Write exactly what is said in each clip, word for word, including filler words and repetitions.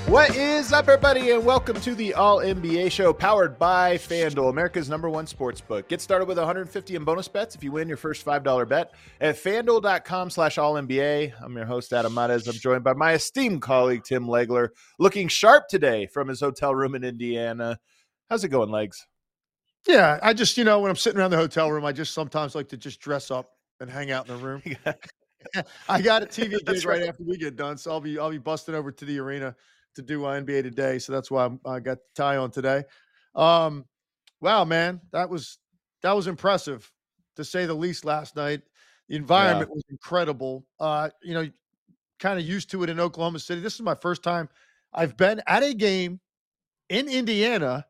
What is up, everybody, and welcome to the All N B A Show, powered by FanDuel, America's number one sports book. Get started with one hundred fifty in bonus bets if you win your first five dollar bet at FanDuel.com slash All N B A. I'm your host, Adam Mares. I'm joined by my esteemed colleague, Tim Legler, looking sharp today from his hotel room in Indiana. How's it going, Legs? Yeah, I just, you know, when I'm sitting around the hotel room, I just sometimes like to just dress up and hang out in the room. I got a T V gig right, right after we get done, so I'll be I'll be busting over to the arena to do uh, N B A Today. So that's why I'm, I got the tie on today. Um, wow, man, that was that was impressive to say the least. Last night, the environment yeah. was incredible. Uh, you know, kind of used to it in Oklahoma City. This is my first time I've been at a game in Indiana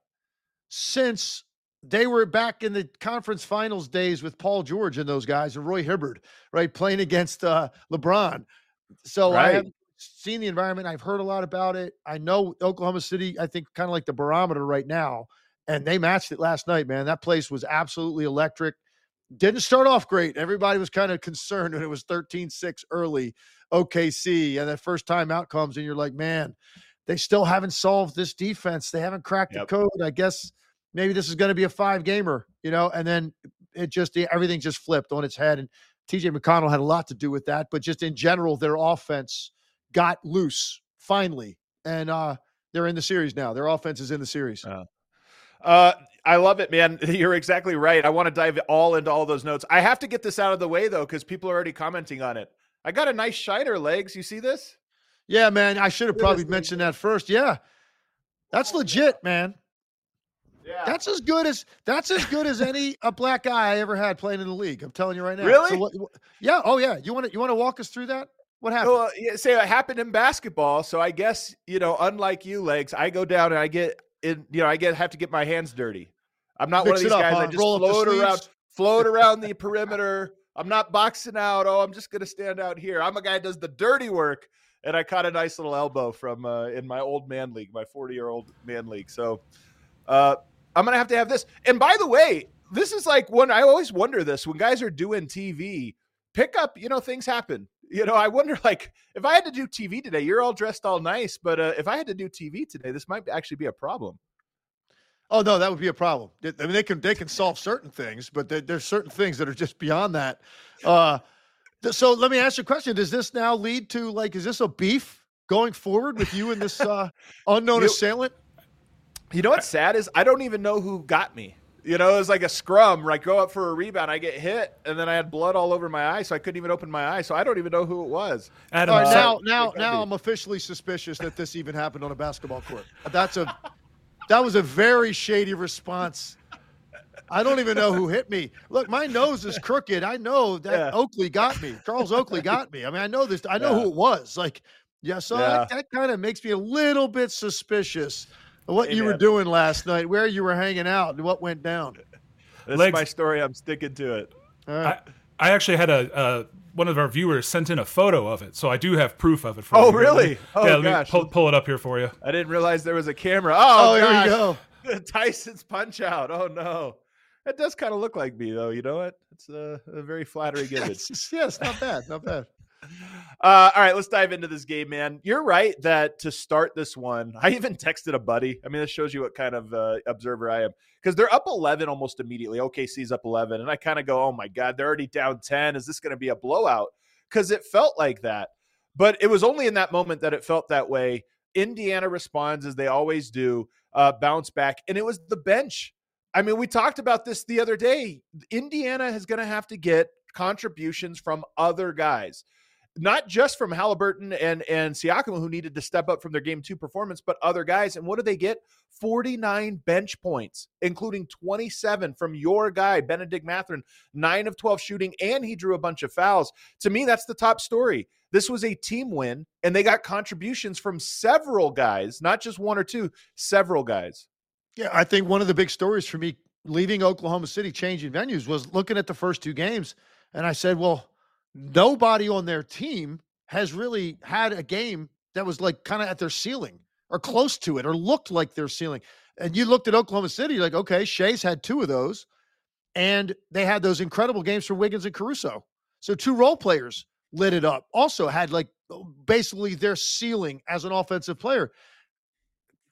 since they were back in the conference finals days with Paul George and those guys and Roy Hibbert, right, playing against uh, LeBron. So right. I haven't seen the environment. I've heard a lot about it. I know Oklahoma City, I think, kind of like the barometer right now, and they matched it last night, man. That place was absolutely electric. Didn't start off great. Everybody was kind of concerned when it was thirteen six early O K C, and that first time out comes, and you're like, man, they still haven't solved this defense. They haven't cracked yep. the code. I guess maybe this is going to be a five-gamer, you know, and then it just – everything just flipped on its head, and T J McConnell had a lot to do with that, but just in general, their offense got loose finally, and uh, they're in the series now. Their offense is in the series. Uh, uh, I love it, man. You're exactly right. I want to dive all into all those notes. I have to get this out of the way, though, because people are already commenting on it. I got a nice shiner, Legs. You see this? Yeah, man. I should have probably mentioned that first. Yeah, that's legit, man. Yeah. That's as good as that's as good as any a black guy I ever had playing in the league. I'm telling you right now. Really? So what, what, yeah. Oh, yeah. You want to you want to walk us through that? What happened? Well, yeah, say it happened in basketball. So I guess, you know, unlike you, Legs, I go down and I get in, you know, I get have to get my hands dirty. I'm not Mix one of these up, guys huh? that just Roll float around, float around the perimeter. I'm not boxing out. Oh, I'm just going to stand out here. I'm a guy that does the dirty work. And I caught a nice little elbow from uh, in my old man league, my forty year old man league. So uh, I'm going to have to have this. And by the way, this is like when I always wonder this when guys are doing T V pickup, you know, things happen. You know, I wonder, like, if I had to do T V today, you're all dressed all nice, but uh, if I had to do T V today, this might actually be a problem. Oh, no, that would be a problem. I mean, they can they can solve certain things, but there, there's certain things that are just beyond that. Uh, th- so let me ask you a question. Does this now lead to, like, is this a beef going forward with you and this uh, unknown you, assailant? You know what's sad is I don't even know who got me. You know, it was like a scrum where I go up for a rebound, I get hit, and then I had blood all over my eye, so I couldn't even open my eye. So I don't even know who it was. Adam, all right, now, now, now I'm officially suspicious that this even happened on a basketball court. That's a that was a very shady response. I don't even know who hit me. Look, my nose is crooked. I know that yeah. Oakley got me. Charles Oakley got me. I mean, I know this. I know yeah. who it was. Like, yeah. So yeah. that, that kind of makes me a little bit suspicious. What Amen. You were doing last night, where you were hanging out, and what went down. That's Legs. My story. I'm sticking to it. Right. I, I actually had a uh, one of our viewers sent in a photo of it, so I do have proof of it. For oh, you. really? Oh, yeah, let gosh. me pull, pull it up here for you. I didn't realize there was a camera. Oh, oh here you go. Tyson's punch out. Oh, no. That does kind of look like me, though. You know what? It's a, a very flattering image. yes, yes, not bad. Not bad. Uh, all right, let's dive into this game, man. You're right that to start this one, I even texted a buddy. I mean, this shows you what kind of uh, observer I am. Because they're up eleven almost immediately. O K C's up eleven. And I kind of go, oh, my God, they're already down ten. Is this going to be a blowout? Because it felt like that. But it was only in that moment that it felt that way. Indiana responds, as they always do, uh, bounce back. And it was the bench. I mean, we talked about this the other day. Indiana is going to have to get contributions from other guys. Not just from Halliburton and, and Siakam, who needed to step up from their game two performance, but other guys. And what do they get? forty-nine bench points, including twenty-seven from your guy, Benedict Mathurin, nine of twelve shooting, and he drew a bunch of fouls. To me, that's the top story. This was a team win, and they got contributions from several guys, not just one or two, several guys. Yeah, I think one of the big stories for me leaving Oklahoma City, changing venues, was looking at the first two games, and I said, well, nobody on their team has really had a game that was like kind of at their ceiling or close to it or looked like their ceiling. And you looked at Oklahoma City, you're like, okay, Shea's had two of those, and they had those incredible games for Wiggins and Caruso. So two role players lit it up. Also had like basically their ceiling as an offensive player.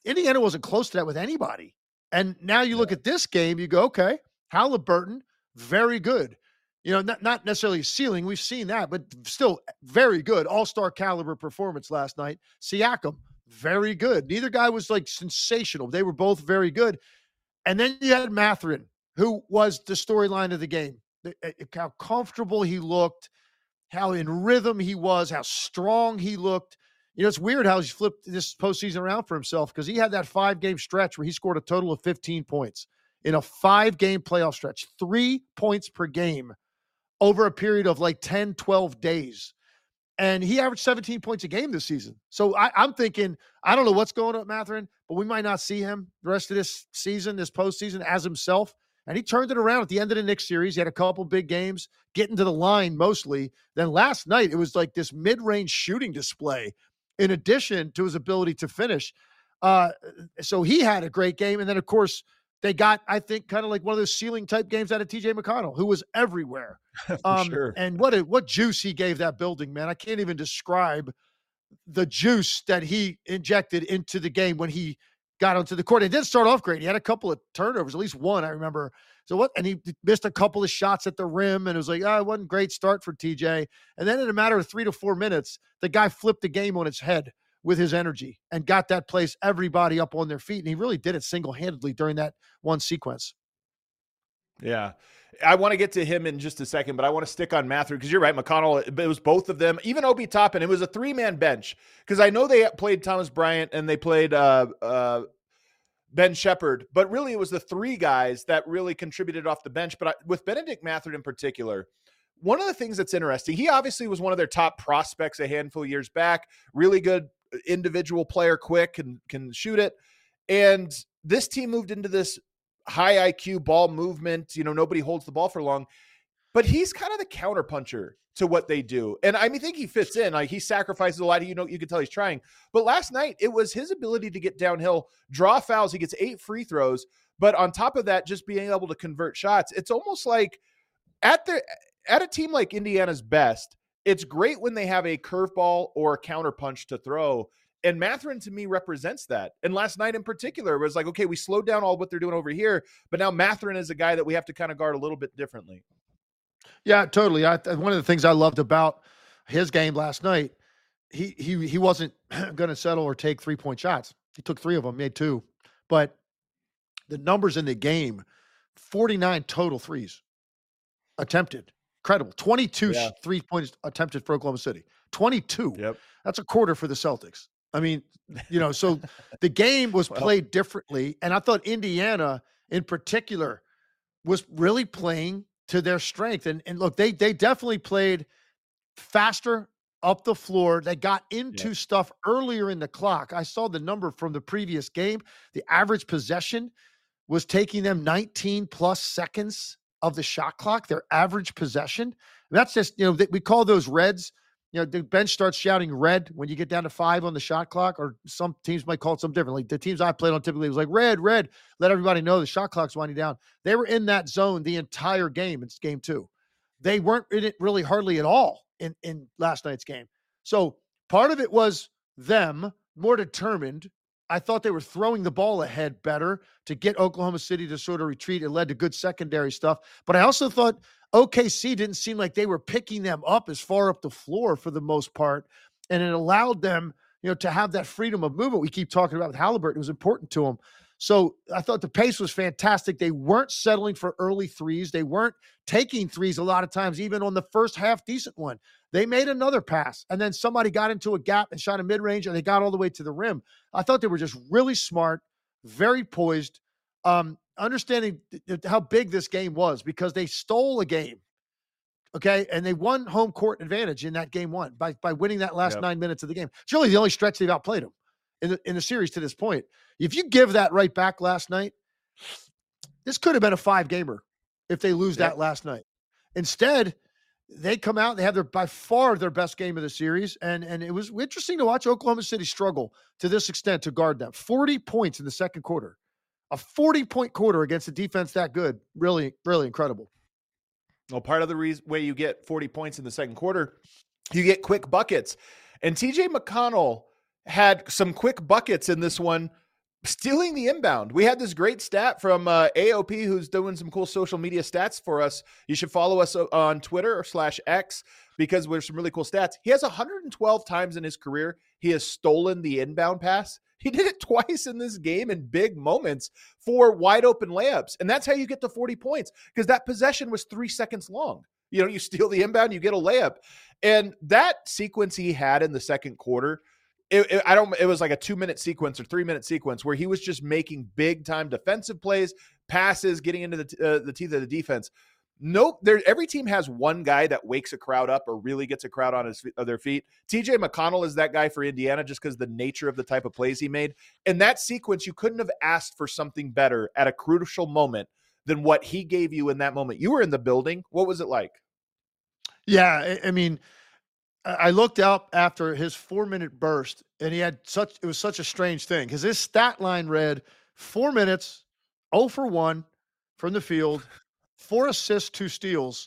Indiana wasn't close to that with anybody. And now you look yeah. at this game, you go, okay, Halliburton, very good. You know, not, not necessarily ceiling. We've seen that, but still very good. All-star caliber performance last night. Siakam, very good. Neither guy was like sensational. They were both very good. And then you had Mathurin, who was the storyline of the game. How comfortable he looked, how in rhythm he was, how strong he looked. You know, it's weird how he's flipped this postseason around for himself because he had that five-game stretch where he scored a total of fifteen points in a five-game playoff stretch, three points per game over a period of like ten, twelve days. And he averaged seventeen points a game this season. So I, I'm thinking, I don't know what's going on with Mathurin, but we might not see him the rest of this season, this postseason, as himself. And he turned it around at the end of the Knicks series. He had a couple big games, getting to the line mostly. Then last night, it was like this mid-range shooting display in addition to his ability to finish. Uh, so he had a great game. And then, of course, they got, I think, kind of like one of those ceiling-type games out of T J McConnell, who was everywhere. um, sure. And what a, what juice he gave that building, man. I can't even describe the juice that he injected into the game when he got onto the court. It did start off great. He had a couple of turnovers, at least one, I remember. So what? And he missed a couple of shots at the rim, and it was like, oh, it wasn't a great start for T J. And then in a matter of three to four minutes, the guy flipped the game on its head with his energy and got that place, everybody up on their feet. And he really did it single-handedly during that one sequence. Yeah. I want to get to him in just a second, but I want to stick on Mathurin because you're right, McConnell, it was both of them, even Obi Toppin. It was a three-man bench because I know they played Thomas Bryant and they played uh, uh, Ben Shepherd, but really it was the three guys that really contributed off the bench. But I, with Benedict Mathurin in particular, one of the things that's interesting, he obviously was one of their top prospects a handful of years back, really good individual player, quick, and can shoot it. And this team moved into this high I Q ball movement. You know, nobody holds the ball for long, but he's kind of the counterpuncher to what they do. And I mean, I think he fits in, like he sacrifices a lot. You know, you can tell he's trying, but last night it was his ability to get downhill, draw fouls. He gets eight free throws, but on top of that, just being able to convert shots. It's almost like at the, at a team like Indiana's best, it's great when they have a curveball or a counterpunch to throw. And Mathurin to me represents that. And last night in particular was like, okay, we slowed down all what they're doing over here, but now Mathurin is a guy that we have to kind of guard a little bit differently. Yeah, totally. I, one of the things I loved about his game last night, he he he wasn't going to settle or take three-point shots. He took three of them, made two. But the numbers in the game, forty-nine total threes attempted. Incredible. twenty-two yeah. three-points attempted for Oklahoma City. twenty-two. Yep. That's a quarter for the Celtics. I mean, you know, so the game was well, played differently. And I thought Indiana in particular was really playing to their strength. And, and look, they they definitely played faster up the floor. They got into yeah. stuff earlier in the clock. I saw the number from the previous game. The average possession was taking them nineteen plus seconds of the shot clock, their average possession. And that's just, you know, we call those reds. You know, the bench starts shouting red when you get down to five on the shot clock, or some teams might call it something differently. The teams I played on typically was like red, red, let everybody know the shot clock's winding down. They were in that zone the entire game. It's game two. They weren't in it really hardly at all in, in last night's game. So part of it was them more determined. I thought they were throwing the ball ahead better to get Oklahoma City to sort of retreat. It led to good secondary stuff. But I also thought O K C didn't seem like they were picking them up as far up the floor for the most part. And it allowed them, you know, to have that freedom of movement we keep talking about with Halliburton. It was important to them. So I thought the pace was fantastic. They weren't settling for early threes. They weren't taking threes a lot of times, even on the first half decent one. They made another pass, and then somebody got into a gap and shot a mid-range, and they got all the way to the rim. I thought they were just really smart, very poised, um, understanding th- how big this game was because they stole a game, okay? And they won home court advantage in that game one by, by winning that last yep. nine minutes of the game. It's really the only stretch they've outplayed them in the, in the series to this point. If you give that right back last night, this could have been a five-gamer if they lose yep. that last night. Instead, they come out, they have their by far their best game of the series, and, and it was interesting to watch Oklahoma City struggle to this extent to guard them. forty points in the second quarter. A forty-point quarter against a defense that good. Really, really incredible. Well, part of the reason way you get forty points in the second quarter, you get quick buckets. And T J McConnell had some quick buckets in this one stealing the inbound. We had this great stat from uh, A O P, who's doing some cool social media stats for us. You should follow us on Twitter or slash X because there's some really cool stats. He has one hundred twelve times in his career he has stolen the inbound pass. He did it twice in this game in big moments for wide open layups. And that's how you get to forty points, because that possession was three seconds long. You know, you steal the inbound, you get a layup. And that sequence he had in the second quarter, It, it, I don't. It was like a two-minute sequence or three-minute sequence where he was just making big-time defensive plays, passes, getting into the uh, the teeth of the defense. Nope. There, every team has one guy that wakes a crowd up or really gets a crowd on his of their feet. T J McConnell is that guy for Indiana, just because the nature of the type of plays he made. In that sequence, you couldn't have asked for something better at a crucial moment than what he gave you in that moment. You were in the building. What was it like? Yeah, I, I mean. I looked up after his four-minute burst, and he had such – it was such a strange thing because his stat line read four minutes, zero for one from the field, four assists, two steals,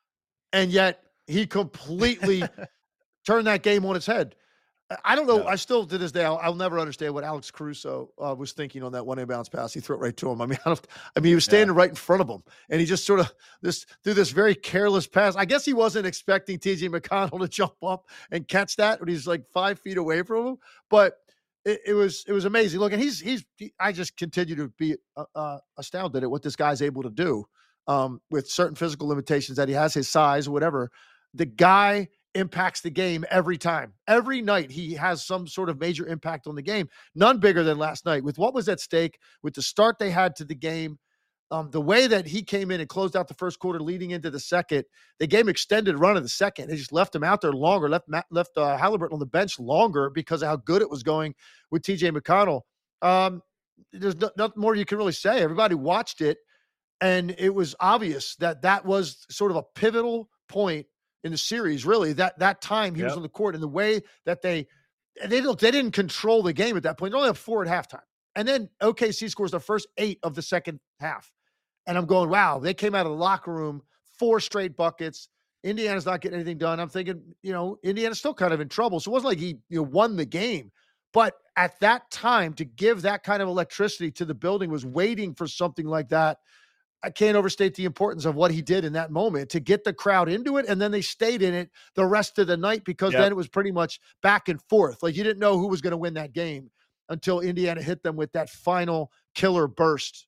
and yet he completely turned that game on its head. I don't know. Yeah. I still, to this day, I'll, I'll never understand what Alex Caruso uh, was thinking on that one inbounds pass. He threw it right to him. I mean, I, don't, I mean, he was standing yeah. right in front of him, and he just sort of this threw this very careless pass. I guess he wasn't expecting T J McConnell to jump up and catch that when he's like five feet away from him. But it, it was it was amazing. Look, and he's he's. He, I just continue to be uh, uh, astounded at what this guy's able to do um, with certain physical limitations that he has, his size, whatever. The guy impacts the game every time. Every night he has some sort of major impact on the game. None bigger than last night. With what was at stake, with the start they had to the game, um, the way that he came in and closed out the first quarter leading into the second, the game extended run of the second. They just left him out there longer, left left uh, Halliburton on the bench longer because of how good it was going with T J McConnell. Um, there's no, nothing more you can really say. Everybody watched it, and it was obvious that that was sort of a pivotal point in the series, really, that that time he yep. was on the court, and the way that they they don't they didn't control the game at that point. They only have four at halftime, and then O K C scores their first eight of the second half, and I'm going, wow, they came out of the locker room four straight buckets. Indiana's not getting anything done. I'm thinking, you know, Indiana's still kind of in trouble, so it wasn't like he you know won the game, but at that time to give that kind of electricity to the building was waiting for something like that. I can't overstate the importance of what he did in that moment to get the crowd into it. And then they stayed in it the rest of the night because yep. then it was pretty much back and forth. Like you didn't know who was going to win that game until Indiana hit them with that final killer burst.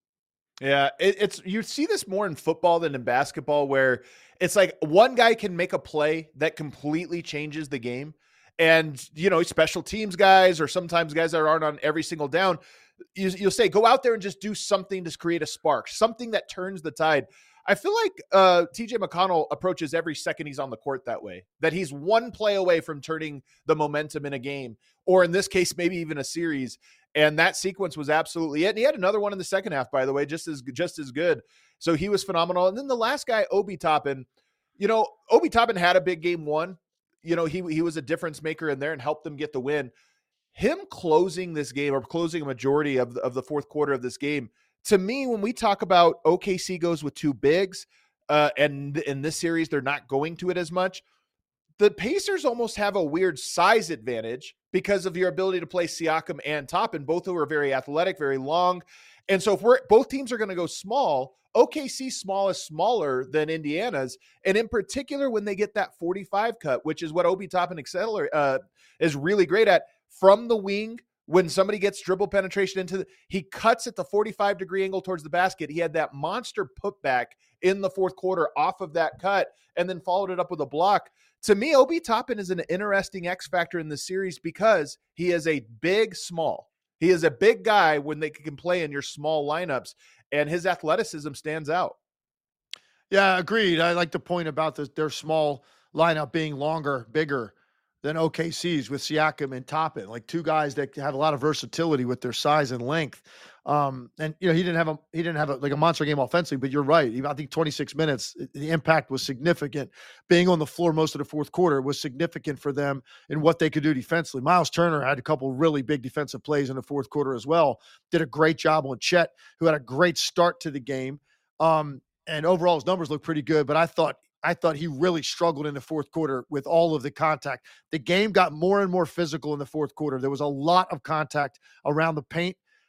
Yeah, it, it's you see this more in football than in basketball, where it's like one guy can make a play that completely changes the game. And, you know, special teams guys or sometimes guys that aren't on every single down, You, you'll say, go out there and just do something to create a spark, something that turns the tide. I feel like uh, T J McConnell approaches every second he's on the court that way, that he's one play away from turning the momentum in a game, or in this case, maybe even a series. And that sequence was absolutely it. And he had another one in the second half, by the way, just as just as good. So he was phenomenal. And then the last guy, Obi Toppin, you know, Obi Toppin had a big game one. You know, he he was a difference maker in there and helped them get the win. Him closing this game or closing a majority of the, of the fourth quarter of this game, to me, when we talk about O K C goes with two bigs, uh, and in this series, they're not going to it as much. The Pacers almost have a weird size advantage because of your ability to play Siakam and Toppin, both who are very athletic, very long. And so if we're both teams are going to go small, O K C small is smaller than Indiana's. And in particular, when they get that forty-five cut, which is what Obi Toppin accelerate, uh, is really great at, from the wing, when somebody gets dribble penetration into the, he cuts at the forty-five degree angle towards the basket. He had that monster putback in the fourth quarter off of that cut and then followed it up with a block. To me, Obi Toppin is an interesting X factor in the series because he is a big, small. He is a big guy when they can play in your small lineups, and his athleticism stands out. Yeah, agreed. I like the point about the, their small lineup being longer, bigger than O K C's with Siakam and Toppin, like two guys that have a lot of versatility with their size and length. Um, and you know, he didn't have a he didn't have a, like a monster game offensively, but you're right. I think twenty-six minutes, the impact was significant. Being on the floor most of the fourth quarter was significant for them in what they could do defensively. Miles Turner had a couple really big defensive plays in the fourth quarter as well. Did a great job on Chet, who had a great start to the game. Um, and overall, his numbers look pretty good. But I thought. I thought he really struggled in the fourth quarter with all of the contact. The game got more and more physical in the fourth quarter. There was a lot of contact around the paint.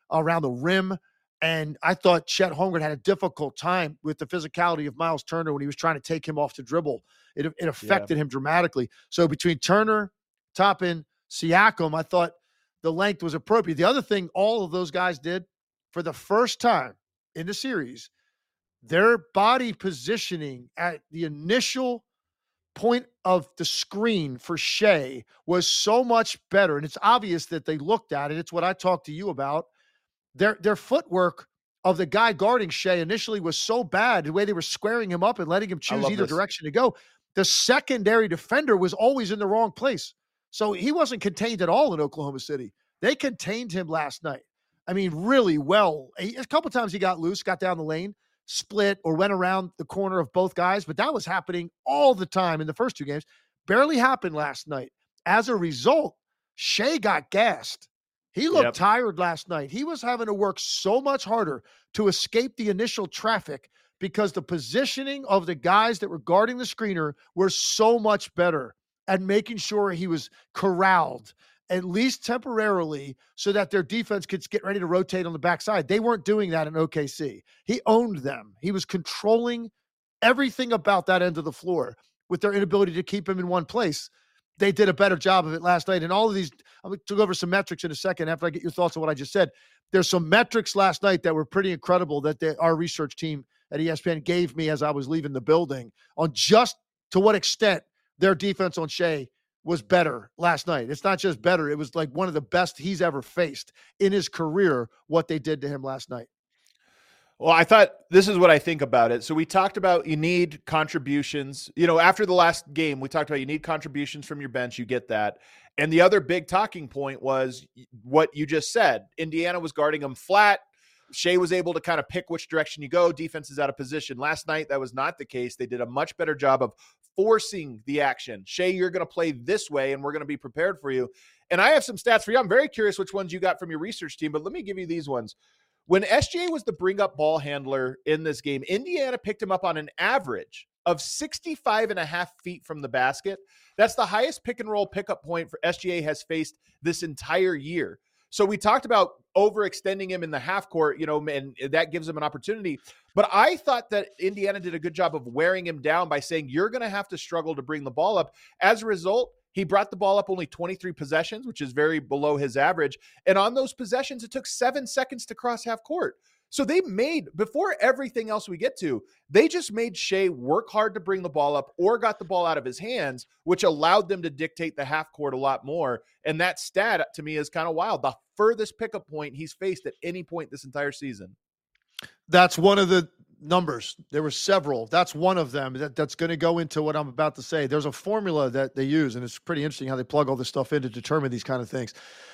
around the rim. And I thought Chet Holmgren had a difficult time with the physicality of Miles Turner when he was trying to take him off to dribble. It, it affected yeah. him dramatically. So between Turner, Toppin, Siakam, I thought the length was appropriate. The other thing all of those guys did for the first time in the series, their body positioning at the initial point of the screen for Shea was so much better. And it's obvious that they looked at it. It's what I talked to you about. Their their footwork of the guy guarding Shea initially was so bad, the way they were squaring him up and letting him choose either this. direction to go. The secondary defender was always in the wrong place. So he wasn't contained at all in Oklahoma City. They contained him last night. I mean, really well. A couple times he got loose, got down the lane, split, or went around the corner of both guys, but that was happening all the time in the first two games. Barely happened last night. As a result, Shea got gassed. He looked yep. tired last night. He was having to work so much harder to escape the initial traffic because the positioning of the guys that were guarding the screener were so much better at making sure he was corralled, at least temporarily, so that their defense could get ready to rotate on the backside. They weren't doing that in O K C. He owned them. He was controlling everything about that end of the floor with their inability to keep him in one place. They did a better job of it last night. And all of these, I'm going to go over some metrics in a second after I get your thoughts on what I just said. There's some metrics last night that were pretty incredible that they, our research team at E S P N gave me as I was leaving the building on just to what extent their defense on Shea was better last night. It's not just better. It was like one of the best he's ever faced in his career, what they did to him last night. Well, I thought this is what I think about it. So we talked about you need contributions. You know, after the last game, we talked about you need contributions from your bench. You get that. And the other big talking point was what you just said. Indiana was guarding them flat. Shea was able to kind of pick which direction you go. Defense is out of position. Last night, that was not the case. They did a much better job of forcing the action. Shea, you're going to play this way, and we're going to be prepared for you. And I have some stats for you. I'm very curious which ones you got from your research team, but let me give you these ones. When S G A was the bring-up ball handler in this game, Indiana picked him up on an average of sixty-five and a half feet from the basket. That's the highest pick-and-roll pickup point for S G A has faced this entire year. So we talked about overextending him in the half court, you know, and that gives him an opportunity. But I thought that Indiana did a good job of wearing him down by saying, you're going to have to struggle to bring the ball up. As a result, he brought the ball up only twenty-three possessions, which is very below his average. And on those possessions, it took seven seconds to cross half court. So they made, before everything else we get to, they just made Shea work hard to bring the ball up or got the ball out of his hands, which allowed them to dictate the half court a lot more. And that stat to me is kind of wild. The furthest pickup point he's faced at any point this entire season. That's one of the numbers. There were several. That's one of them that, that's going to go into what I'm about to say. There's a formula that they use, and it's pretty interesting how they plug all this stuff in to determine these kind of things.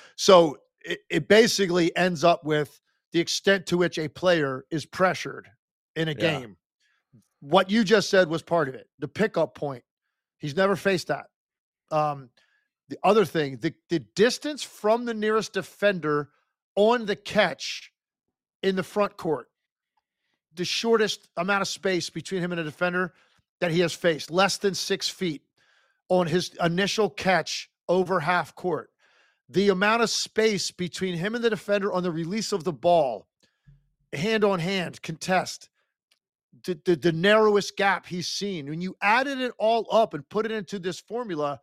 So it, it basically ends up with the extent to which a player is pressured in a yeah. game. What you just said was part of it. The pickup point. He's never faced that. Um, the other thing, the, the distance from the nearest defender on the catch in the front court, the shortest amount of space between him and a defender that he has faced, less than six feet on his initial catch over half court. The amount of space between him and the defender on the release of the ball, hand on hand, contest, the, the, the narrowest gap he's seen. When you added it all up and put it into this formula,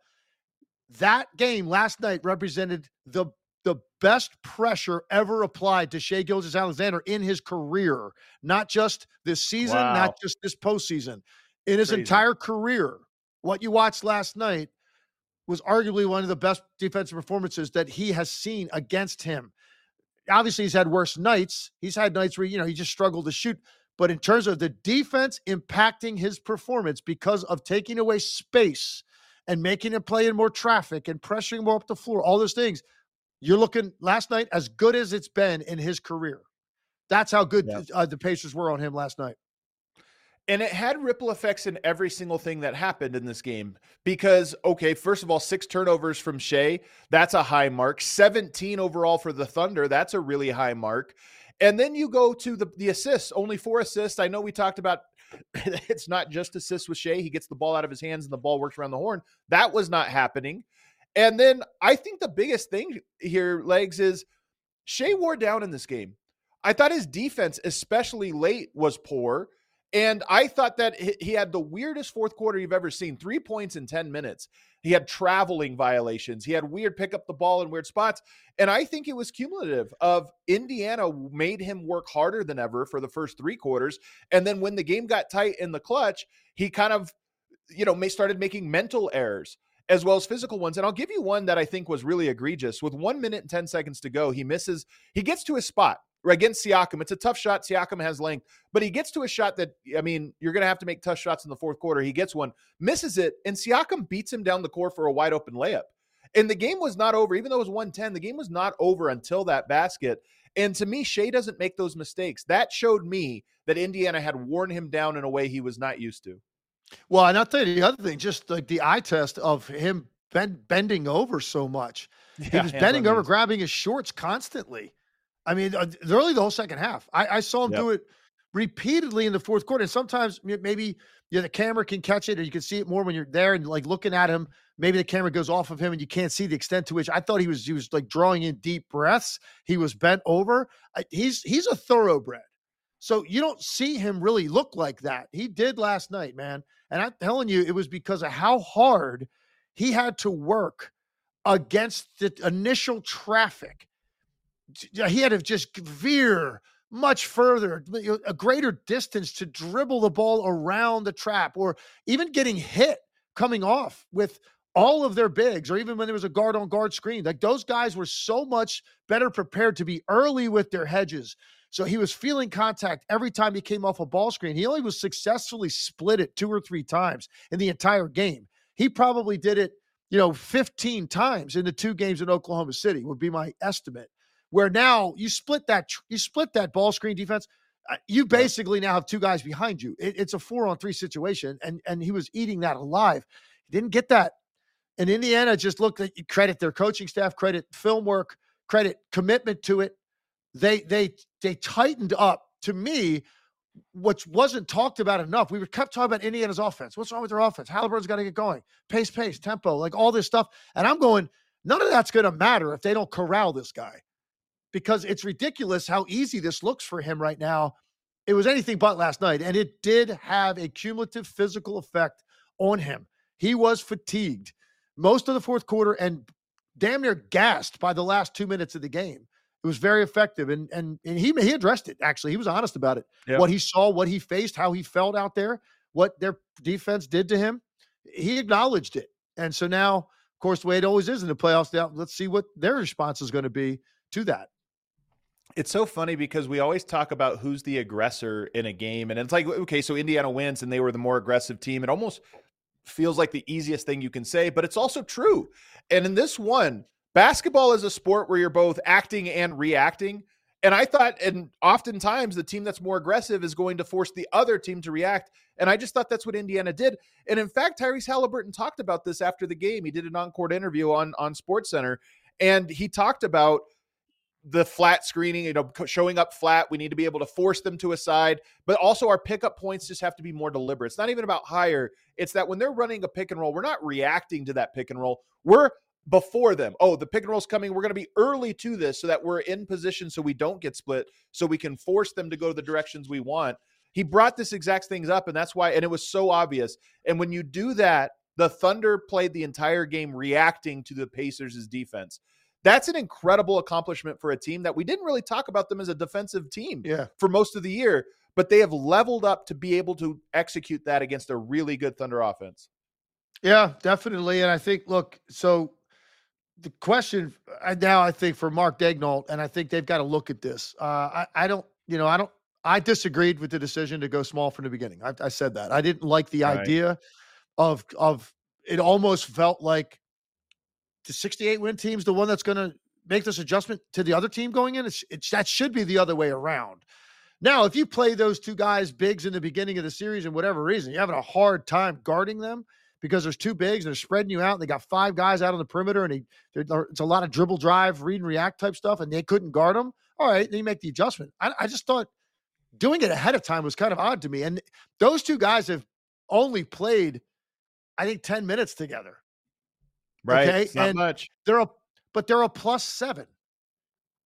that game last night represented the, the best pressure ever applied to Shai Gilgeous-Alexander in his career, not just this season, wow. not just this postseason, in his Crazy. entire career. What you watched last night was arguably one of the best defensive performances that he has seen against him. Obviously, he's had worse nights. He's had nights where, you know, he just struggled to shoot. But in terms of the defense impacting his performance because of taking away space and making him play in more traffic and pressuring more up the floor, all those things, you're looking last night as good as it's been in his career. That's how good yeah. uh, the Pacers were on him last night. And it had ripple effects in every single thing that happened in this game because, okay, first of all, six turnovers from Shai, that's a high mark. seventeen overall for the Thunder, that's a really high mark. And then you go to the, the assists, only four assists. I know we talked about it's not just assists with Shai. He gets the ball out of his hands and the ball works around the horn. That was not happening. And then I think the biggest thing here, Legs, is Shea wore down in this game. I thought his defense, especially late, was poor. And I thought that he had the weirdest fourth quarter you've ever seen. Three points in ten minutes. He had traveling violations. He had weird pick up the ball in weird spots. And I think it was cumulative of Indiana made him work harder than ever for the first three quarters. And then when the game got tight in the clutch, he kind of, you know, started making mental errors as well as physical ones. And I'll give you one that I think was really egregious. With one minute and ten seconds to go, he misses, he gets to his spot against Siakam. It's a tough shot. Siakam has length, but he gets to a shot that, I mean, you're going to have to make tough shots in the fourth quarter. He gets one, misses it, and Siakam beats him down the court for a wide open layup. And the game was not over. Even though it was one ten, the game was not over until that basket. And to me, Shea doesn't make those mistakes. That showed me that Indiana had worn him down in a way he was not used to. Well, and I'll tell you the other thing, just like the eye test of him bend, bending over so much. Yeah, he was bending over, grabbing his shorts constantly. I mean, early the whole second half. I, I saw him yep. do it repeatedly in the fourth quarter. And sometimes maybe you know, the camera can catch it, or you can see it more when you're there and like looking at him. Maybe the camera goes off of him and you can't see the extent to which I thought he was. He was like drawing in deep breaths. He was bent over. I, he's he's a thoroughbred. So you don't see him really look like that. He did last night, man. And I'm telling you, it was because of how hard he had to work against the initial traffic. He had to just veer much further, a greater distance to dribble the ball around the trap, or even getting hit coming off with all of their bigs, or even when there was a guard on guard screen. Like those guys were so much better prepared to be early with their hedges. So he was feeling contact every time he came off a ball screen. He only was successfully split it two or three times in the entire game. He probably did it, you know, fifteen times in the two games in Oklahoma City would be my estimate. Where now you split that, you split that ball screen defense. You basically now have two guys behind you. It, it's a four on three situation. And, and he was eating that alive. He didn't get that. And Indiana just looked at, credit their coaching staff, credit film work, credit commitment to it. They, they, they tightened up. To me, what wasn't talked about enough, we were kept talking about Indiana's offense. What's wrong with their offense? Halliburton's got to get going. Pace, pace, tempo, like all this stuff. And I'm going, none of that's going to matter if they don't corral this guy. Because it's ridiculous how easy this looks for him right now. It was anything but last night, and it did have a cumulative physical effect on him. He was fatigued most of the fourth quarter and damn near gassed by the last two minutes of the game. It was very effective, and and, and he, he addressed it, actually. He was honest about it. Yep. What he saw, what he faced, how he felt out there, what their defense did to him. He acknowledged it. And so now, of course, the way it always is in the playoffs, now let's see what their response is going to be to that. It's so funny because we always talk about who's the aggressor in a game. And it's like, okay, so Indiana wins and they were the more aggressive team. It almost feels like the easiest thing you can say, but it's also true. And in this one, basketball is a sport where you're both acting and reacting. And I thought, and oftentimes the team that's more aggressive is going to force the other team to react. And I just thought that's what Indiana did. And in fact, Tyrese Halliburton talked about this after the game. He did an on-court interview on, on SportsCenter, and he talked about the flat screening, you know, showing up flat. We need to be able to force them to a side, but also our pickup points just have to be more deliberate. It's not even about higher. It's that when they're running a pick and roll, we're not reacting to that pick and roll. We're before them. Oh, the pick and roll's coming. We're going to be early to this so that we're in position so we don't get split, so we can force them to go the directions we want. He brought this exact things up, and that's why, and it was so obvious. And when you do that, the Thunder played the entire game reacting to the Pacers' defense. That's an incredible accomplishment for a team that we didn't really talk about them as a defensive team yeah. for most of the year, but they have leveled up to be able to execute that against a really good Thunder offense. Yeah, definitely. And I think, look, so the question now, I think for Mark Daigneault, and I think they've got to look at this. Uh, I, I don't, you know, I don't, I disagreed with the decision to go small from the beginning. I, I said that. I didn't like the right. idea of, of it almost felt like, the sixty-eight win team's the one that's going to make this adjustment to the other team going in. It's, it's that should be the other way around. Now, if you play those two guys bigs in the beginning of the series and whatever reason, you're having a hard time guarding them because there's two bigs and they're spreading you out and they got five guys out on the perimeter and they, it's a lot of dribble drive, read and react type stuff, and they couldn't guard them. All right, then you make the adjustment. I, I just thought doing it ahead of time was kind of odd to me. And those two guys have only played, I think, ten minutes together. Right. Okay? It's not and much. They're a, but they're a plus seven.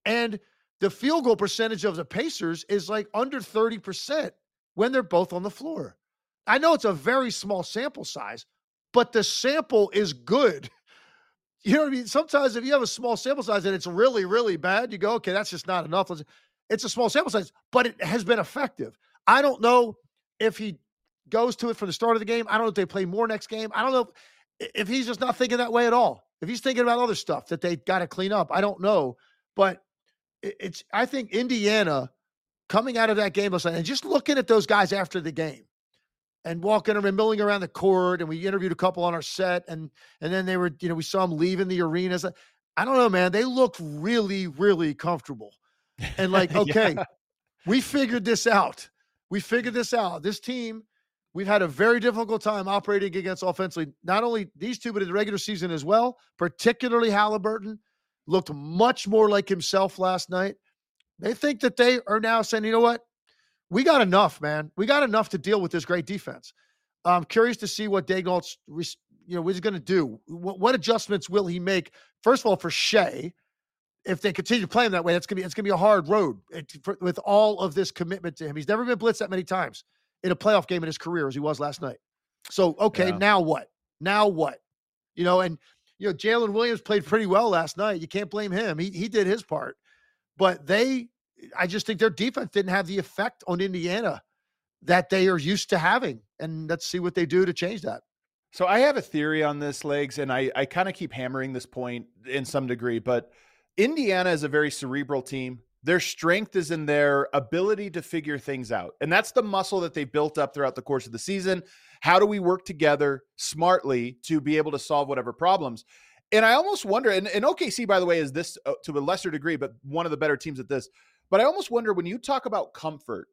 And the field goal percentage of the Pacers is like under thirty percent when they're both on the floor. I know it's a very small sample size, but the sample is good. You know what I mean? Sometimes if you have a small sample size and it's really, really bad, you go, okay, that's just not enough. It's a small sample size, but it has been effective. I don't know if he goes to it from the start of the game. I don't know if they play more next game. I don't know if, if he's just not thinking that way at all. If he's thinking about other stuff that they got to clean up, I don't know. But it's, I think Indiana coming out of that game last night and just looking at those guys after the game and walking around, milling around the court, and we interviewed a couple on our set, and and then they were, you know, we saw them leaving the arenas. I don't know, man. They looked really, really comfortable. And like, okay, yeah. we figured this out. We figured this out. This team, we've had a very difficult time operating against offensively. Not only these two, but in the regular season as well, particularly Halliburton, looked much more like himself last night. They think that they are now saying, you know what? We got enough, man. We got enough to deal with this great defense. I'm curious to see what Daigneault's, you know, what he's going to do. What, what adjustments will he make? First of all, for Shea, if they continue playing that way, that's going to be, it's going to be a hard road it, for, with all of this commitment to him. He's never been blitzed that many times in a playoff game in his career as he was last night. So, okay, yeah. now what? Now what? You know, and, you know, Jalen Williams played pretty well last night. You can't blame him. He he did his part. But they, I just think their defense didn't have the effect on Indiana that they are used to having. And let's see what they do to change that. So I have a theory on this, Legs, and I, I kind of keep hammering this point in some degree, but Indiana is a very cerebral team. Their strength is in their ability to figure things out. And that's the muscle that they built up throughout the course of the season. How do we work together smartly to be able to solve whatever problems? And I almost wonder, and, and O K C, by the way, is this uh, to a lesser degree, but one of the better teams at this. But I almost wonder when you talk about comfort,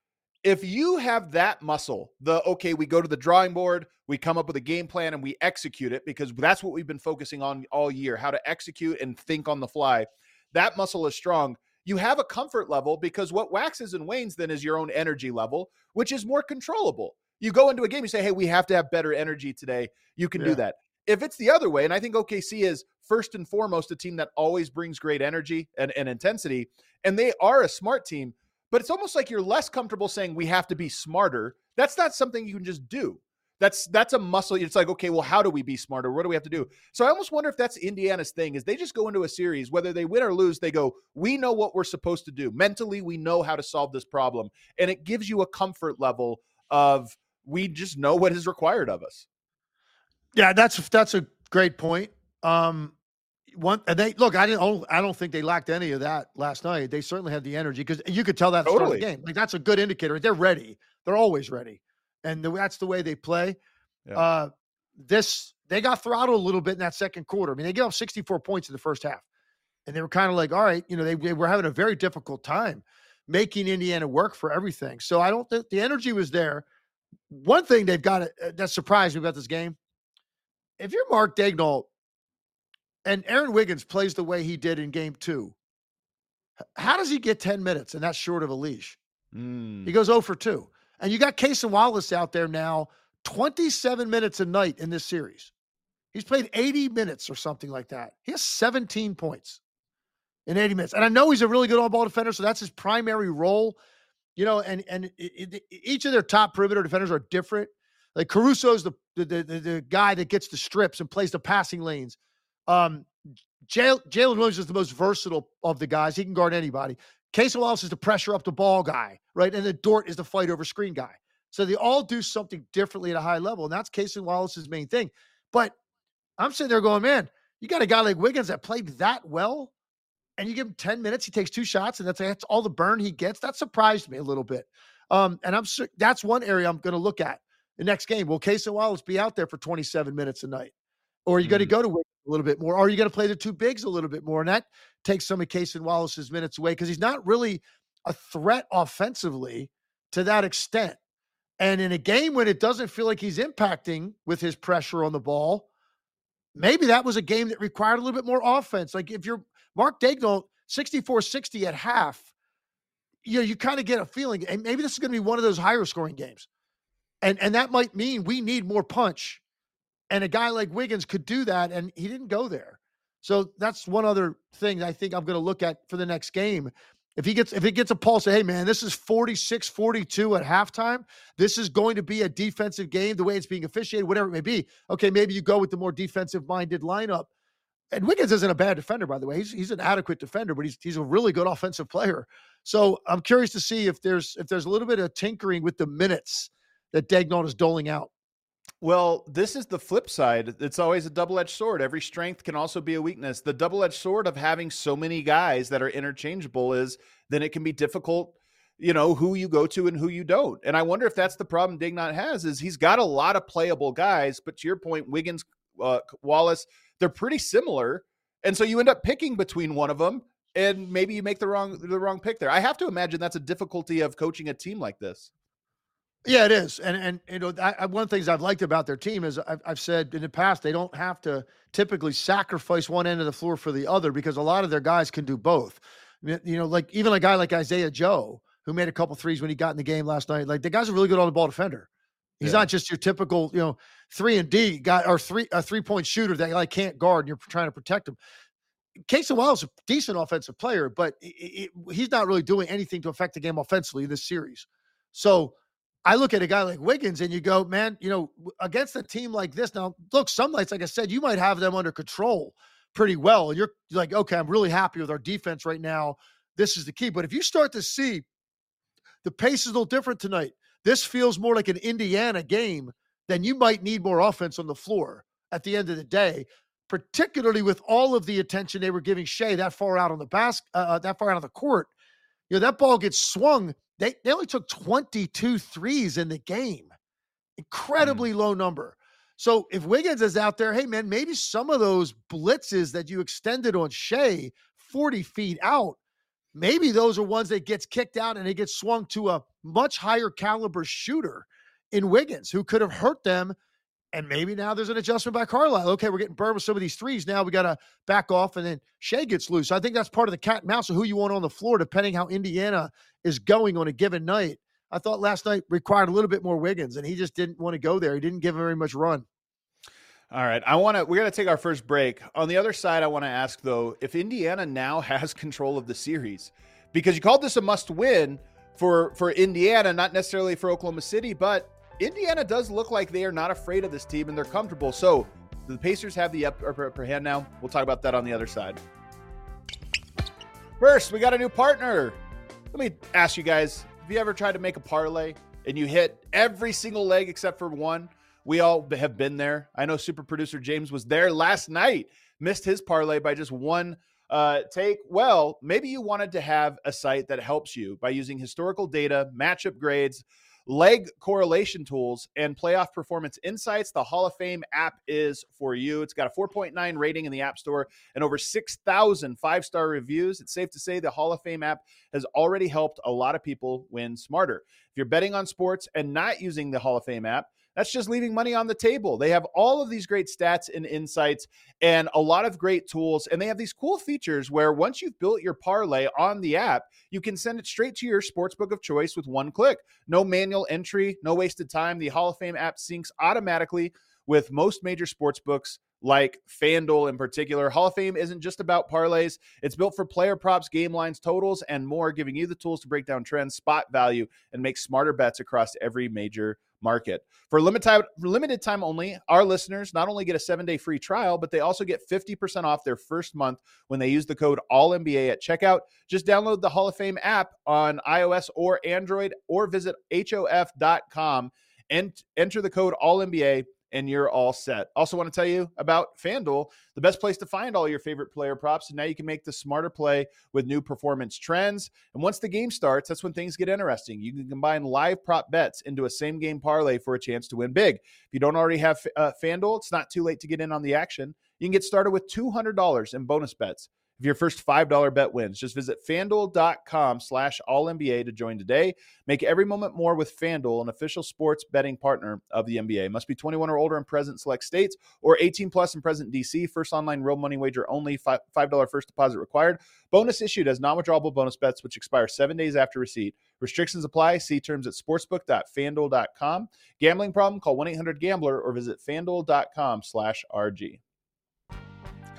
if you have that muscle, the, okay, we go to the drawing board, we come up with a game plan and we execute it, because that's what we've been focusing on all year, how to execute and think on the fly. That muscle is strong. You have a comfort level, because what waxes and wanes then is your own energy level, which is more controllable. You go into a game, you say, hey, we have to have better energy today. You can yeah. do that. If it's the other way, and I think O K C is first and foremost a team that always brings great energy and, and intensity, and they are a smart team, but it's almost like you're less comfortable saying we have to be smarter. That's not something you can just do. That's that's a muscle. It's like, okay, well, how do we be smarter? What do we have to do? So I almost wonder if that's Indiana's thing, is they just go into a series, whether they win or lose, they go, we know what we're supposed to do. Mentally, we know how to solve this problem. And it gives you a comfort level of, we just know what is required of us. Yeah, that's that's a great point. Um, one, and they look. I didn't. I don't think they lacked any of that last night. They certainly had the energy, because you could tell that at the totally. start of the game. Like, that's a good indicator. They're ready. They're always ready, and the, that's the way they play. Yeah. Uh, this they got throttled a little bit in that second quarter. I mean, they gave up sixty-four points in the first half, and they were kind of like, all right, you know, they, they were having a very difficult time making Indiana work for everything. So I don't think the energy was there. One thing they've got uh, that surprised me about this game. If you're Mark Daigneault and Aaron Wiggins plays the way he did in game two, how does he get ten minutes and that's short of a leash? Mm. He goes oh for two. And you got Cason Wallace out there now, twenty-seven minutes a night in this series. He's played eighty minutes or something like that. He has seventeen points in eighty minutes. And I know he's a really good on-ball defender, so that's his primary role. You know, and, and it, it, each of their top perimeter defenders are different. Like Caruso's the the, the the guy that gets the strips and plays the passing lanes. Um, Jalen Williams is the most versatile of the guys. He can guard anybody. Cason Wallace is the pressure up the ball guy, right? And then Dort is the fight over screen guy. So they all do something differently at a high level, and that's Cason Wallace's main thing. But I'm sitting there going, man, you got a guy like Wiggins that played that well, and you give him ten minutes, he takes two shots, and that's, that's all the burn he gets. That surprised me a little bit. Um, and I'm that's one area I'm going to look at. The next game, will Cason Wallace be out there for twenty-seven minutes a night? Or are you mm. going to go to Wiggins a little bit more? Or are you going to play the two bigs a little bit more? And that takes some of Cason Wallace's minutes away, because he's not really a threat offensively to that extent. And in a game when it doesn't feel like he's impacting with his pressure on the ball, maybe that was a game that required a little bit more offense. Like if you're Mark Daigneault, sixty-four sixty at half, you know, you kind of get a feeling, and maybe this is going to be one of those higher scoring games. And and that might mean we need more punch. And a guy like Wiggins could do that, and he didn't go there. So that's one other thing I think I'm going to look at for the next game. If he gets, if it gets a pulse, say, hey man, this is forty-six forty-two at halftime. This is going to be a defensive game, the way it's being officiated, whatever it may be. Okay, maybe you go with the more defensive minded lineup. And Wiggins isn't a bad defender, by the way. He's he's an adequate defender, but he's he's a really good offensive player. So I'm curious to see if there's if there's a little bit of tinkering with the minutes that Daigneault is doling out. Well, this is the flip side. It's always a double-edged sword. Every strength can also be a weakness. The double-edged sword of having so many guys that are interchangeable is then it can be difficult, you know, who you go to and who you don't. And I wonder if that's the problem Daigneault has, is he's got a lot of playable guys, but to your point, Wiggins, uh, Wallace, they're pretty similar. And so you end up picking between one of them, and maybe you make the wrong the wrong pick there. I have to imagine that's a difficulty of coaching a team like this. Yeah, it is. And, and you know, I, I, one of the things I've liked about their team is I've, I've said in the past, they don't have to typically sacrifice one end of the floor for the other, because a lot of their guys can do both. You know, like even a guy like Isaiah Joe, who made a couple threes when he got in the game last night, like the guy's a really good on the ball defender. He's yeah. not just your typical, you know, three and D guy or three, a three point shooter that like can't guard and you're trying to protect him. Casey Wiles is a decent offensive player, but it, it, he's not really doing anything to affect the game offensively in this series. So I look at a guy like Wiggins and you go, man, you know, against a team like this, now look, some nights, like I said, you might have them under control pretty well. And you're like, okay, I'm really happy with our defense right now. This is the key. But if you start to see the pace is a little different tonight, this feels more like an Indiana game, then you might need more offense on the floor at the end of the day, particularly with all of the attention they were giving Shea that far out on the basket, uh, that far out on the court. You know, that ball gets swung. They, they only took twenty-two threes in the game. Incredibly mm. low number. So if Wiggins is out there, hey, man, maybe some of those blitzes that you extended on Shea forty feet out, maybe those are ones that gets kicked out and it gets swung to a much higher caliber shooter in Wiggins who could have hurt them. And maybe now there's an adjustment by Carlisle. Okay, we're getting burned with some of these threes. Now we got to back off, and then Shea gets loose. So I think that's part of the cat and mouse of who you want on the floor, depending how Indiana is going on a given night. I thought last night required a little bit more Wiggins, and he just didn't want to go there. He didn't give very much run. All right, I want to. We're going to take our first break. On the other side, I want to ask though, if Indiana now has control of the series, because you called this a must-win for for Indiana, not necessarily for Oklahoma City, but Indiana does look like they are not afraid of this team and they're comfortable. So the Pacers have the upper, upper hand now. We'll talk about that on the other side. First, we got a new partner. Let me ask you guys, have you ever tried to make a parlay and you hit every single leg except for one? We all have been there. I know super producer James was there last night, missed his parlay by just one uh, take. Well, maybe you wanted to have a site that helps you by using historical data, matchup grades, leg correlation tools, and playoff performance insights. The Hall of Fame app is for you. It's got a four point nine rating in the App Store and over six thousand five-star reviews. It's safe to say the Hall of Fame app has already helped a lot of people win smarter. If you're betting on sports and not using the Hall of Fame app, that's just leaving money on the table. They have all of these great stats and insights and a lot of great tools. And they have these cool features where once you've built your parlay on the app, you can send it straight to your sportsbook of choice with one click. No manual entry, no wasted time. The Hall of Fame app syncs automatically with most major sportsbooks like FanDuel in particular. Hall of Fame isn't just about parlays. It's built for player props, game lines, totals, and more, giving you the tools to break down trends, spot value, and make smarter bets across every major market. For limited time, limited time only, our listeners not only get a seven-day free trial, but they also get fifty percent off their first month when they use the code all N B A at checkout. Just download the Hall of Fame app on iOS or Android, or visit H O F dot com and enter the code all N B A, and you're all set. Also want to tell you about FanDuel, the best place to find all your favorite player props. And now you can make the smarter play with new performance trends. And once the game starts, that's when things get interesting. You can combine live prop bets into a same game parlay for a chance to win big. If you don't already have uh, FanDuel, it's not too late to get in on the action. You can get started with two hundred dollars in bonus bets if your first five dollar bet wins. Just visit FanDuel.com slash all N B A to join today. Make every moment more with FanDuel, an official sports betting partner of the N B A. Must be twenty-one or older in present select states, or eighteen plus in present D C. First online real money wager only. five dollar first deposit required. Bonus issued as non-withdrawable bonus bets, which expire seven days after receipt. Restrictions apply. See terms at sportsbook dot fanduel dot com. Gambling problem? Call one eight hundred gambler or visit FanDuel.com slash RG.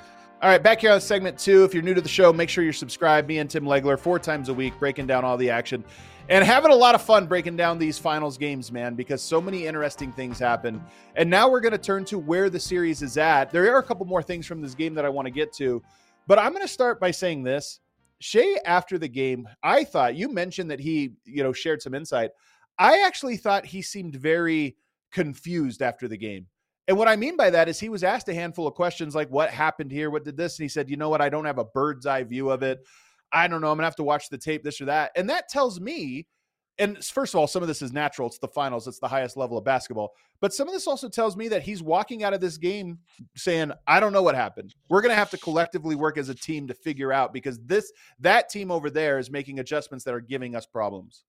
All right, back here on segment two. If you're new to the show, make sure you're subscribed. Me and Tim Legler, four times a week, breaking down all the action and having a lot of fun breaking down these finals games, man, because so many interesting things happen. And now we're going to turn to where the series is at. There are a couple more things from this game that I want to get to, but I'm going to start by saying this. Shai, after the game, I thought, you mentioned that he, you know, shared some insight. I actually thought he seemed very confused after the game. And what I mean by that is he was asked a handful of questions like, what happened here? What did this? And he said, you know what? I don't have a bird's eye view of it. I don't know. I'm going to have to watch the tape, this or that. And that tells me, and first of all, some of this is natural. It's the finals. It's the highest level of basketball. But some of this also tells me that he's walking out of this game saying, I don't know what happened. We're going to have to collectively work as a team to figure out, because this, that team over there is making adjustments that are giving us problems.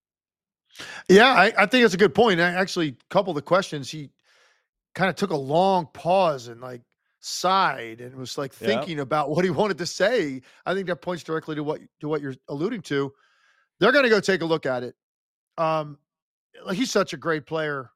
Yeah, I, I think that's a good point. I actually, a couple of the questions, he kind of took a long pause and like sighed and was like thinking yeah. about what he wanted to say. I think that points directly to what to what you're alluding to. They're going to go take a look at it. Um, he's such a great player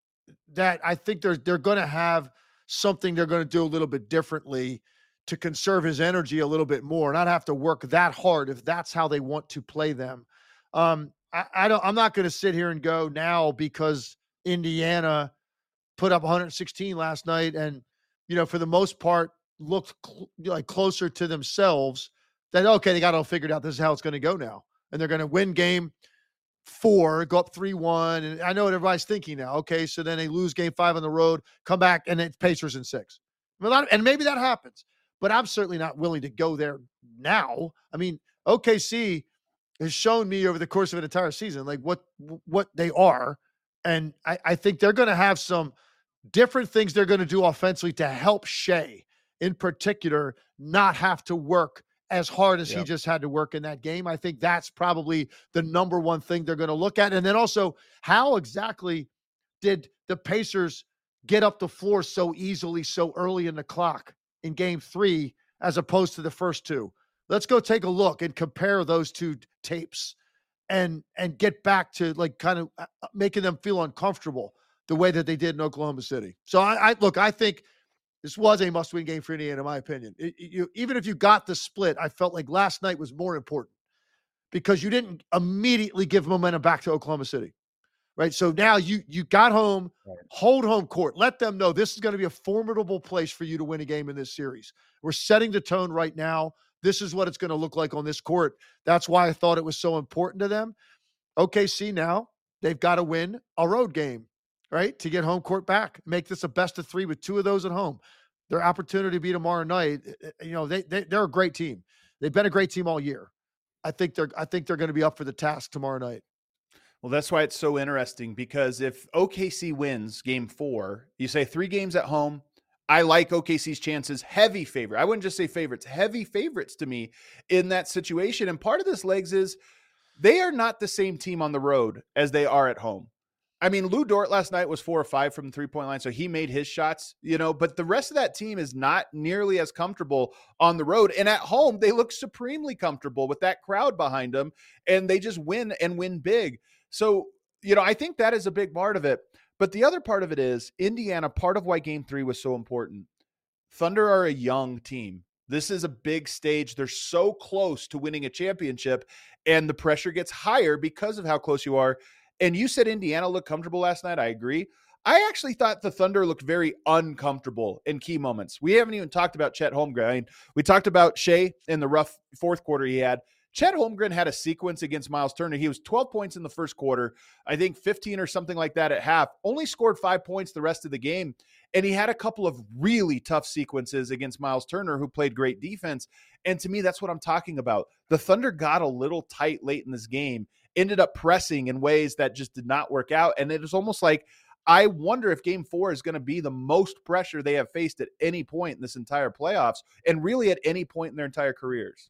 that I think they're they're going to have something they're going to do a little bit differently to conserve his energy a little bit more, not have to work that hard if that's how they want to play them. Um, I, I don't. I'm not going to sit here and go now because Indiana put up one hundred sixteen last night and, you know, for the most part looked cl- like closer to themselves that, okay, they got it all figured out. This is how it's going to go now. And they're going to win game four, go up three one. And I know what everybody's thinking now. Okay, so then they lose game five on the road, come back, and it's Pacers in six. And maybe that happens. But I'm certainly not willing to go there now. I mean, O K C has shown me over the course of an entire season like what what they are. And I, I think they're going to have some different things they're going to do offensively to help Shai, in particular, not have to work as hard as yep. he just had to work in that game. I think that's probably the number one thing they're going to look at. And then also, how exactly did the Pacers get up the floor so easily so early in the clock in game three as opposed to the first two? Let's go take a look and compare those two tapes and and get back to like kind of making them feel uncomfortable the way that they did in Oklahoma City. So I, I look, I think this was a must-win game for Indiana, in my opinion. It, you, even if you got the split, I felt like last night was more important because you didn't immediately give momentum back to Oklahoma City, right? So now you you got home, right. Hold home court. Let them know this is going to be a formidable place for you to win a game in this series. We're setting the tone right now. This is what it's going to look like on this court. That's why I thought it was so important to them. O K C now, they've got to win a road game, right, to get home court back. Make this a best of three with two of those at home. Their opportunity to be tomorrow night, you know, they, they, they're a great team. They've been a great team all year. I think they're I think they're going to be up for the task tomorrow night. Well, that's why it's so interesting, because if O K C wins game four, you say three games at home, I like O K C's chances, heavy favorite. I wouldn't just say favorites, heavy favorites to me in that situation. And part of this, Legs, is they are not the same team on the road as they are at home. I mean, Lou Dort last night was four or five from the three-point line, so he made his shots, you know, but the rest of that team is not nearly as comfortable on the road. And at home, they look supremely comfortable with that crowd behind them, and they just win and win big. So, you know, I think that is a big part of it. But the other part of it is Indiana, part of why game three was so important. Thunder are a young team. This is a big stage. They're so close to winning a championship, and the pressure gets higher because of how close you are. And you said Indiana looked comfortable last night. I agree. I actually thought the Thunder looked very uncomfortable in key moments. We haven't even talked about Chet Holmgren. I mean, we talked about Shai in the rough fourth quarter he had. Chet Holmgren had a sequence against Miles Turner. He was twelve points in the first quarter, I think fifteen or something like that at half, only scored five points the rest of the game. And he had a couple of really tough sequences against Miles Turner, who played great defense. And to me, that's what I'm talking about. The Thunder got a little tight late in this game, ended up pressing in ways that just did not work out. And it was almost like, I wonder if game four is going to be the most pressure they have faced at any point in this entire playoffs, and really at any point in their entire careers.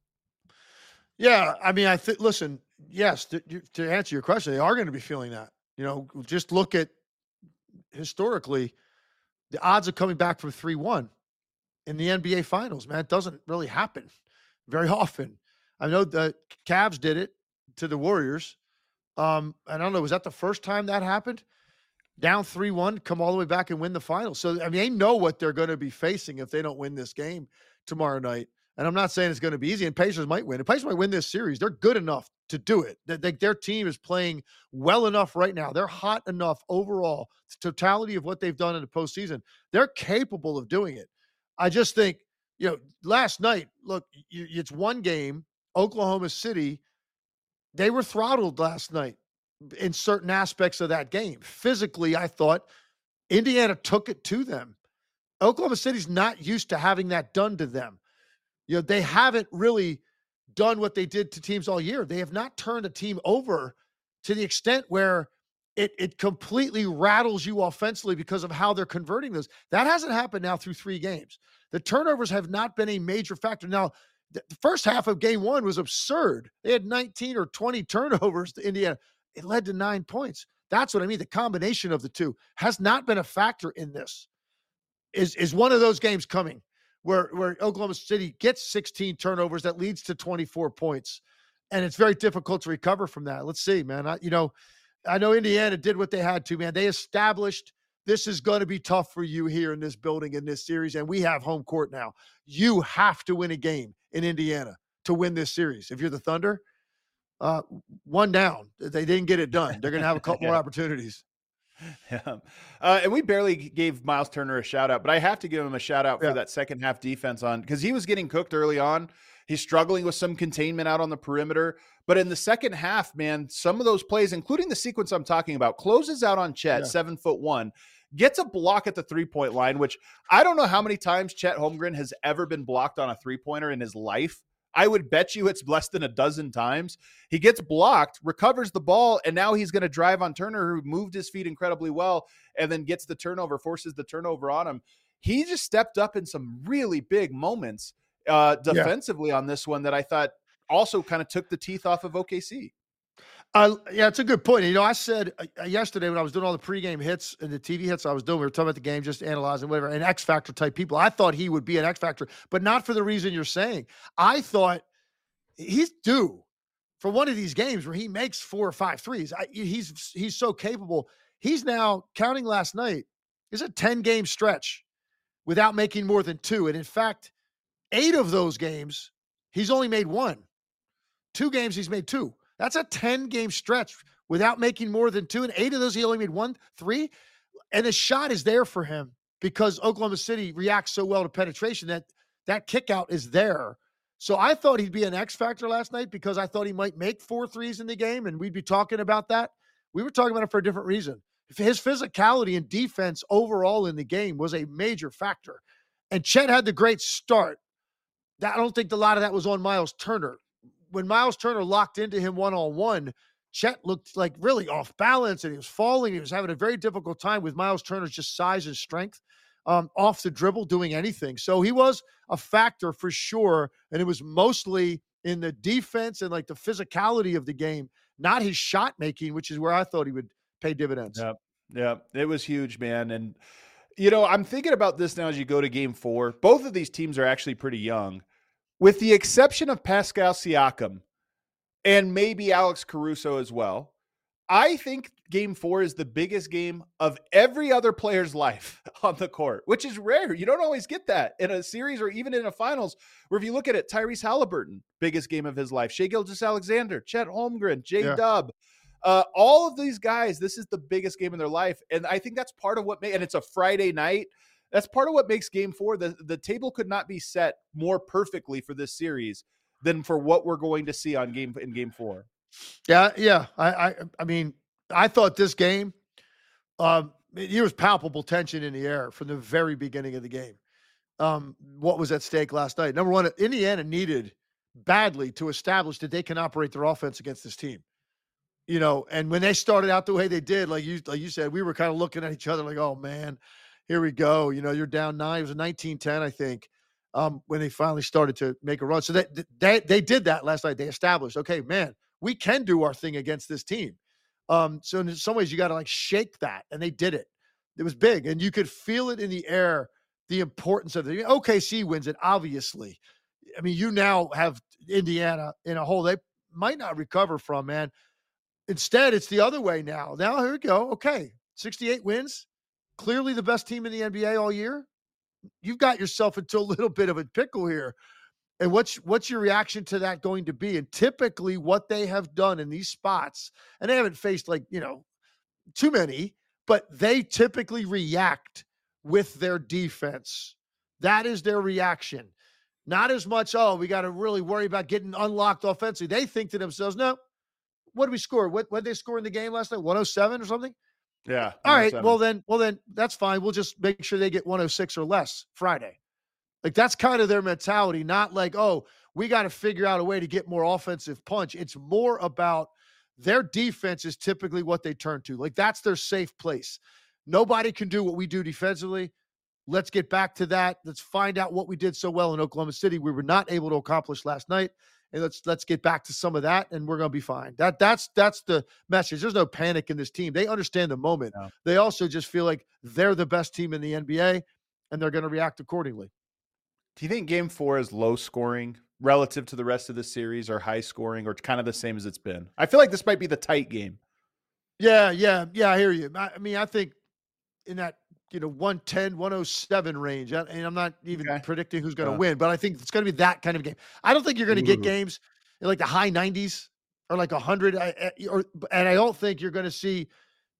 Yeah, I mean, I think, listen, yes, to, to answer your question, they are going to be feeling that. You know, just look at historically the odds of coming back from three one in the N B A Finals, man. It doesn't really happen very often. I know the Cavs did it to the Warriors. Um, I don't know, was that the first time that happened? Down three one, come all the way back and win the Finals. So, I mean, they know what they're going to be facing if they don't win this game tomorrow night. And I'm not saying it's going to be easy, and Pacers might win. The Pacers might win this series. They're good enough to do it. They, they, their team is playing well enough right now. They're hot enough overall. The totality of what they've done in the postseason, they're capable of doing it. I just think, you know, last night, look, you, it's one game. Oklahoma City, they were throttled last night in certain aspects of that game. Physically, I thought Indiana took it to them. Oklahoma City's not used to having that done to them. You know, they haven't really done what they did to teams all year. They have not turned a team over to the extent where it it completely rattles you offensively because of how they're converting those. That hasn't happened now through three games. The turnovers have not been a major factor. Now, the first half of game one was absurd. They had nineteen or twenty turnovers to Indiana. It led to nine points. That's what I mean. The combination of the two has not been a factor in this. Is is one of those games coming where, where Oklahoma City gets sixteen turnovers that leads to twenty-four points, and it's very difficult to recover from that. Let's see, man. I, you know, I know Indiana did what they had to, man. They established this is going to be tough for you here in this building in this series, and we have home court now. You have to win a game in Indiana to win this series. If you're the Thunder, uh, one down. They didn't get it done. They're going to have a couple yeah. more opportunities. Yeah. Uh, and we barely gave Miles Turner a shout out, but I have to give him a shout out for yeah. that second half defense on, because he was getting cooked early on. He's struggling with some containment out on the perimeter, but in the second half, man, some of those plays, including the sequence I'm talking about, closes out on Chet, yeah. seven foot one, gets a block at the three point line, which I don't know how many times Chet Holmgren has ever been blocked on a three pointer in his life. I would bet you it's less than a dozen times. He gets blocked, recovers the ball, and now he's going to drive on Turner, who moved his feet incredibly well, and then gets the turnover, forces the turnover on him. He just stepped up in some really big moments uh, defensively yeah. on this one that I thought also kind of took the teeth off of O K C. Uh, yeah, it's a good point. You know, I said uh, yesterday when I was doing all the pregame hits and the T V hits I was doing, we were talking about the game, just analyzing whatever, and X Factor type people. I thought he would be an X Factor, but not for the reason you're saying. I thought he's due for one of these games where he makes four or five threes. I, he's he's so capable. He's now, counting last night, is a ten-game stretch without making more than two. And in fact, eight of those games, he's only made one. Two games, he's made two. That's a ten-game stretch without making more than two. And eight of those, he only made one, three. And the shot is there for him because Oklahoma City reacts so well to penetration that that kick out is there. So I thought he'd be an X factor last night because I thought he might make four threes in the game, and we'd be talking about that. We were talking about it for a different reason. His physicality and defense overall in the game was a major factor. And Chet had the great start. I don't think a lot of that was on Miles Turner. When Miles Turner locked into him one-on-one, Chet looked like really off balance, and he was falling. He was having a very difficult time with Miles Turner's just size and strength um, off the dribble, doing anything. So he was a factor for sure, and it was mostly in the defense and like the physicality of the game, not his shot making, which is where I thought he would pay dividends. Yeah, yeah, it was huge, man. And, you know, I'm thinking about this now as you go to game four. Both of these teams are actually pretty young. With the exception of Pascal Siakam and maybe Alex Caruso as well, I think game four is the biggest game of every other player's life on the court, which is rare. You don't always get that in a series or even in a finals, where if you look at it, Tyrese Halliburton, biggest game of his life, Shai Gilgeous-Alexander, Chet Holmgren, J-Dub, yeah. uh, all of these guys, this is the biggest game in their life. And I think that's part of what made, and it's a Friday night. That's part of what makes game four. The, the table could not be set more perfectly for this series than for what we're going to see on game in game four. Yeah. Yeah. I, I, I mean, I thought this game, um, there was palpable tension in the air from the very beginning of the game. Um, what was at stake last night? Number one, Indiana needed badly to establish that they can operate their offense against this team. You know, and when they started out the way they did, like you, like you said, we were kind of looking at each other like, oh man, here we go. You know, you're down nine. It was a nineteen ten, I think, um, when they finally started to make a run. So they, they, they did that last night. They established, okay, man, we can do our thing against this team. Um, so in some ways you got to like shake that. And they did it. It was big. And you could feel it in the air, the importance of it. O K C wins it, obviously. I mean, you now have Indiana in a hole they might not recover from, man. Instead, it's the other way now. Now, here we go. Okay, sixty-eight wins. Clearly the best team in the N B A all year. You've got yourself into a little bit of a pickle here. And what's what's your reaction to that going to be? And typically what they have done in these spots, and they haven't faced like, you know, too many, but they typically react with their defense. That is their reaction. Not as much, oh, we got to really worry about getting unlocked offensively. They think to themselves, no, what did we score? What what did they score in the game last night? one oh seven or something? Yeah. All right. Well then, well then that's fine. We'll just make sure they get one oh six or less Friday. Like that's kind of their mentality, not like, oh, we got to figure out a way to get more offensive punch. It's more about their defense is typically what they turn to. Like that's their safe place. Nobody can do what we do defensively. Let's get back to that. Let's find out what we did so well in Oklahoma City we were not able to accomplish last night. And let's let's get back to some of that, and we're going to be fine. That that's that's the message. There's no panic in this team. They understand the moment. No. They also just feel like they're the best team in the N B A, and they're going to react accordingly. Do you think game four is low scoring relative to the rest of the series, or high scoring, or kind of the same as it's been? I feel like this might be the tight game. Yeah, yeah, yeah, I hear you. I, I mean, I think in that, you know, one ten, one oh seven range, I, and I'm not even okay. predicting who's going to uh, win, but I think it's going to be that kind of game. I don't think you're going to get games in like the high nineties or like one hundred, I, or, and I don't think you're going to see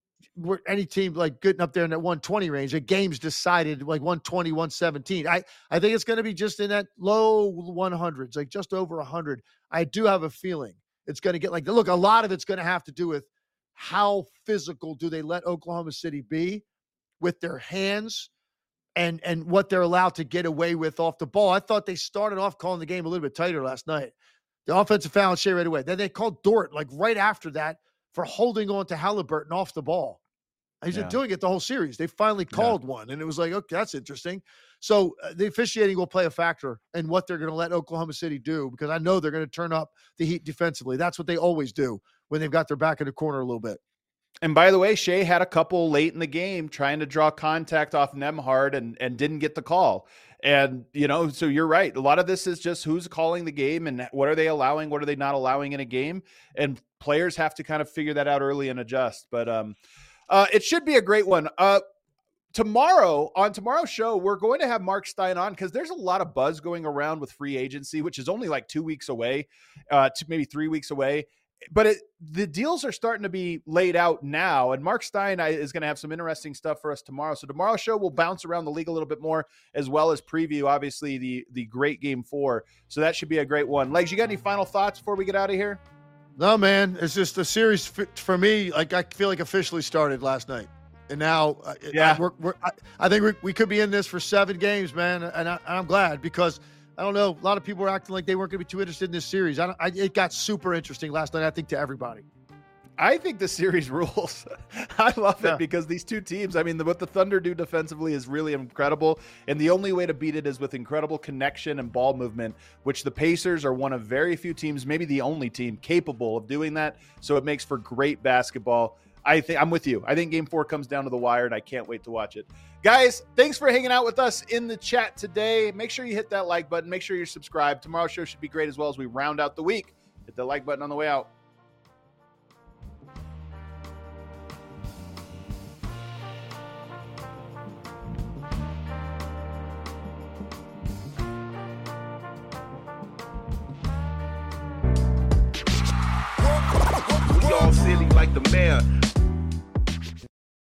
any team like getting up there in that one twenty range. The game's decided like one twenty, one seventeen. I, I think it's going to be just in that low one hundreds, like just over one hundred. I do have a feeling it's going to get like, look, a lot of it's going to have to do with how physical do they let Oklahoma City be with their hands and, and what they're allowed to get away with off the ball. I thought they started off calling the game a little bit tighter last night. The offensive foul on Shea right away. Then they called Dort like right after that for holding on to Halliburton off the ball. He's yeah. been doing it the whole series. They finally called yeah. one, and it was like, okay, that's interesting. So uh, the officiating will play a factor in what they're going to let Oklahoma City do, because I know they're going to turn up the heat defensively. That's what they always do when they've got their back in the corner a little bit. And by the way, Shea had a couple late in the game trying to draw contact off Nembhard and, and didn't get the call. And, you know, so you're right. A lot of this is just who's calling the game and what are they allowing? What are they not allowing in a game? And players have to kind of figure that out early and adjust. But um, uh, it should be a great one. Uh, tomorrow, on tomorrow's show, we're going to have Mark Stein on because there's a lot of buzz going around with free agency, which is only like two weeks away, uh, to maybe three weeks away. But it, the deals are starting to be laid out now, and Mark Stein is going to have some interesting stuff for us tomorrow. So tomorrow's show will bounce around the league a little bit more, as well as preview, obviously, the the great game four. So that should be a great one. Legs, you got any final thoughts before we get out of here? No, man. It's just the series for me. Like I feel like officially started last night, and now, yeah, I, we're, we're, I, I think we we could be in this for seven games, man. And I, I'm glad because. I don't know. A lot of people were acting like they weren't going to be too interested in this series. I, don't, I it got super interesting last night, I think, to everybody. I think the series rules. I love it yeah. because these two teams, I mean, the, what the Thunder do defensively is really incredible. And the only way to beat it is with incredible connection and ball movement, which the Pacers are one of very few teams, maybe the only team capable of doing that. So it makes for great basketball. I think I'm with you. I think game four comes down to the wire, and I can't wait to watch it. Guys, thanks for hanging out with us in the chat today. Make sure you hit that like button. Make sure you're subscribed. Tomorrow's show should be great as well as we round out the week. Hit the like button on the way out. Y'all silly like the mayor.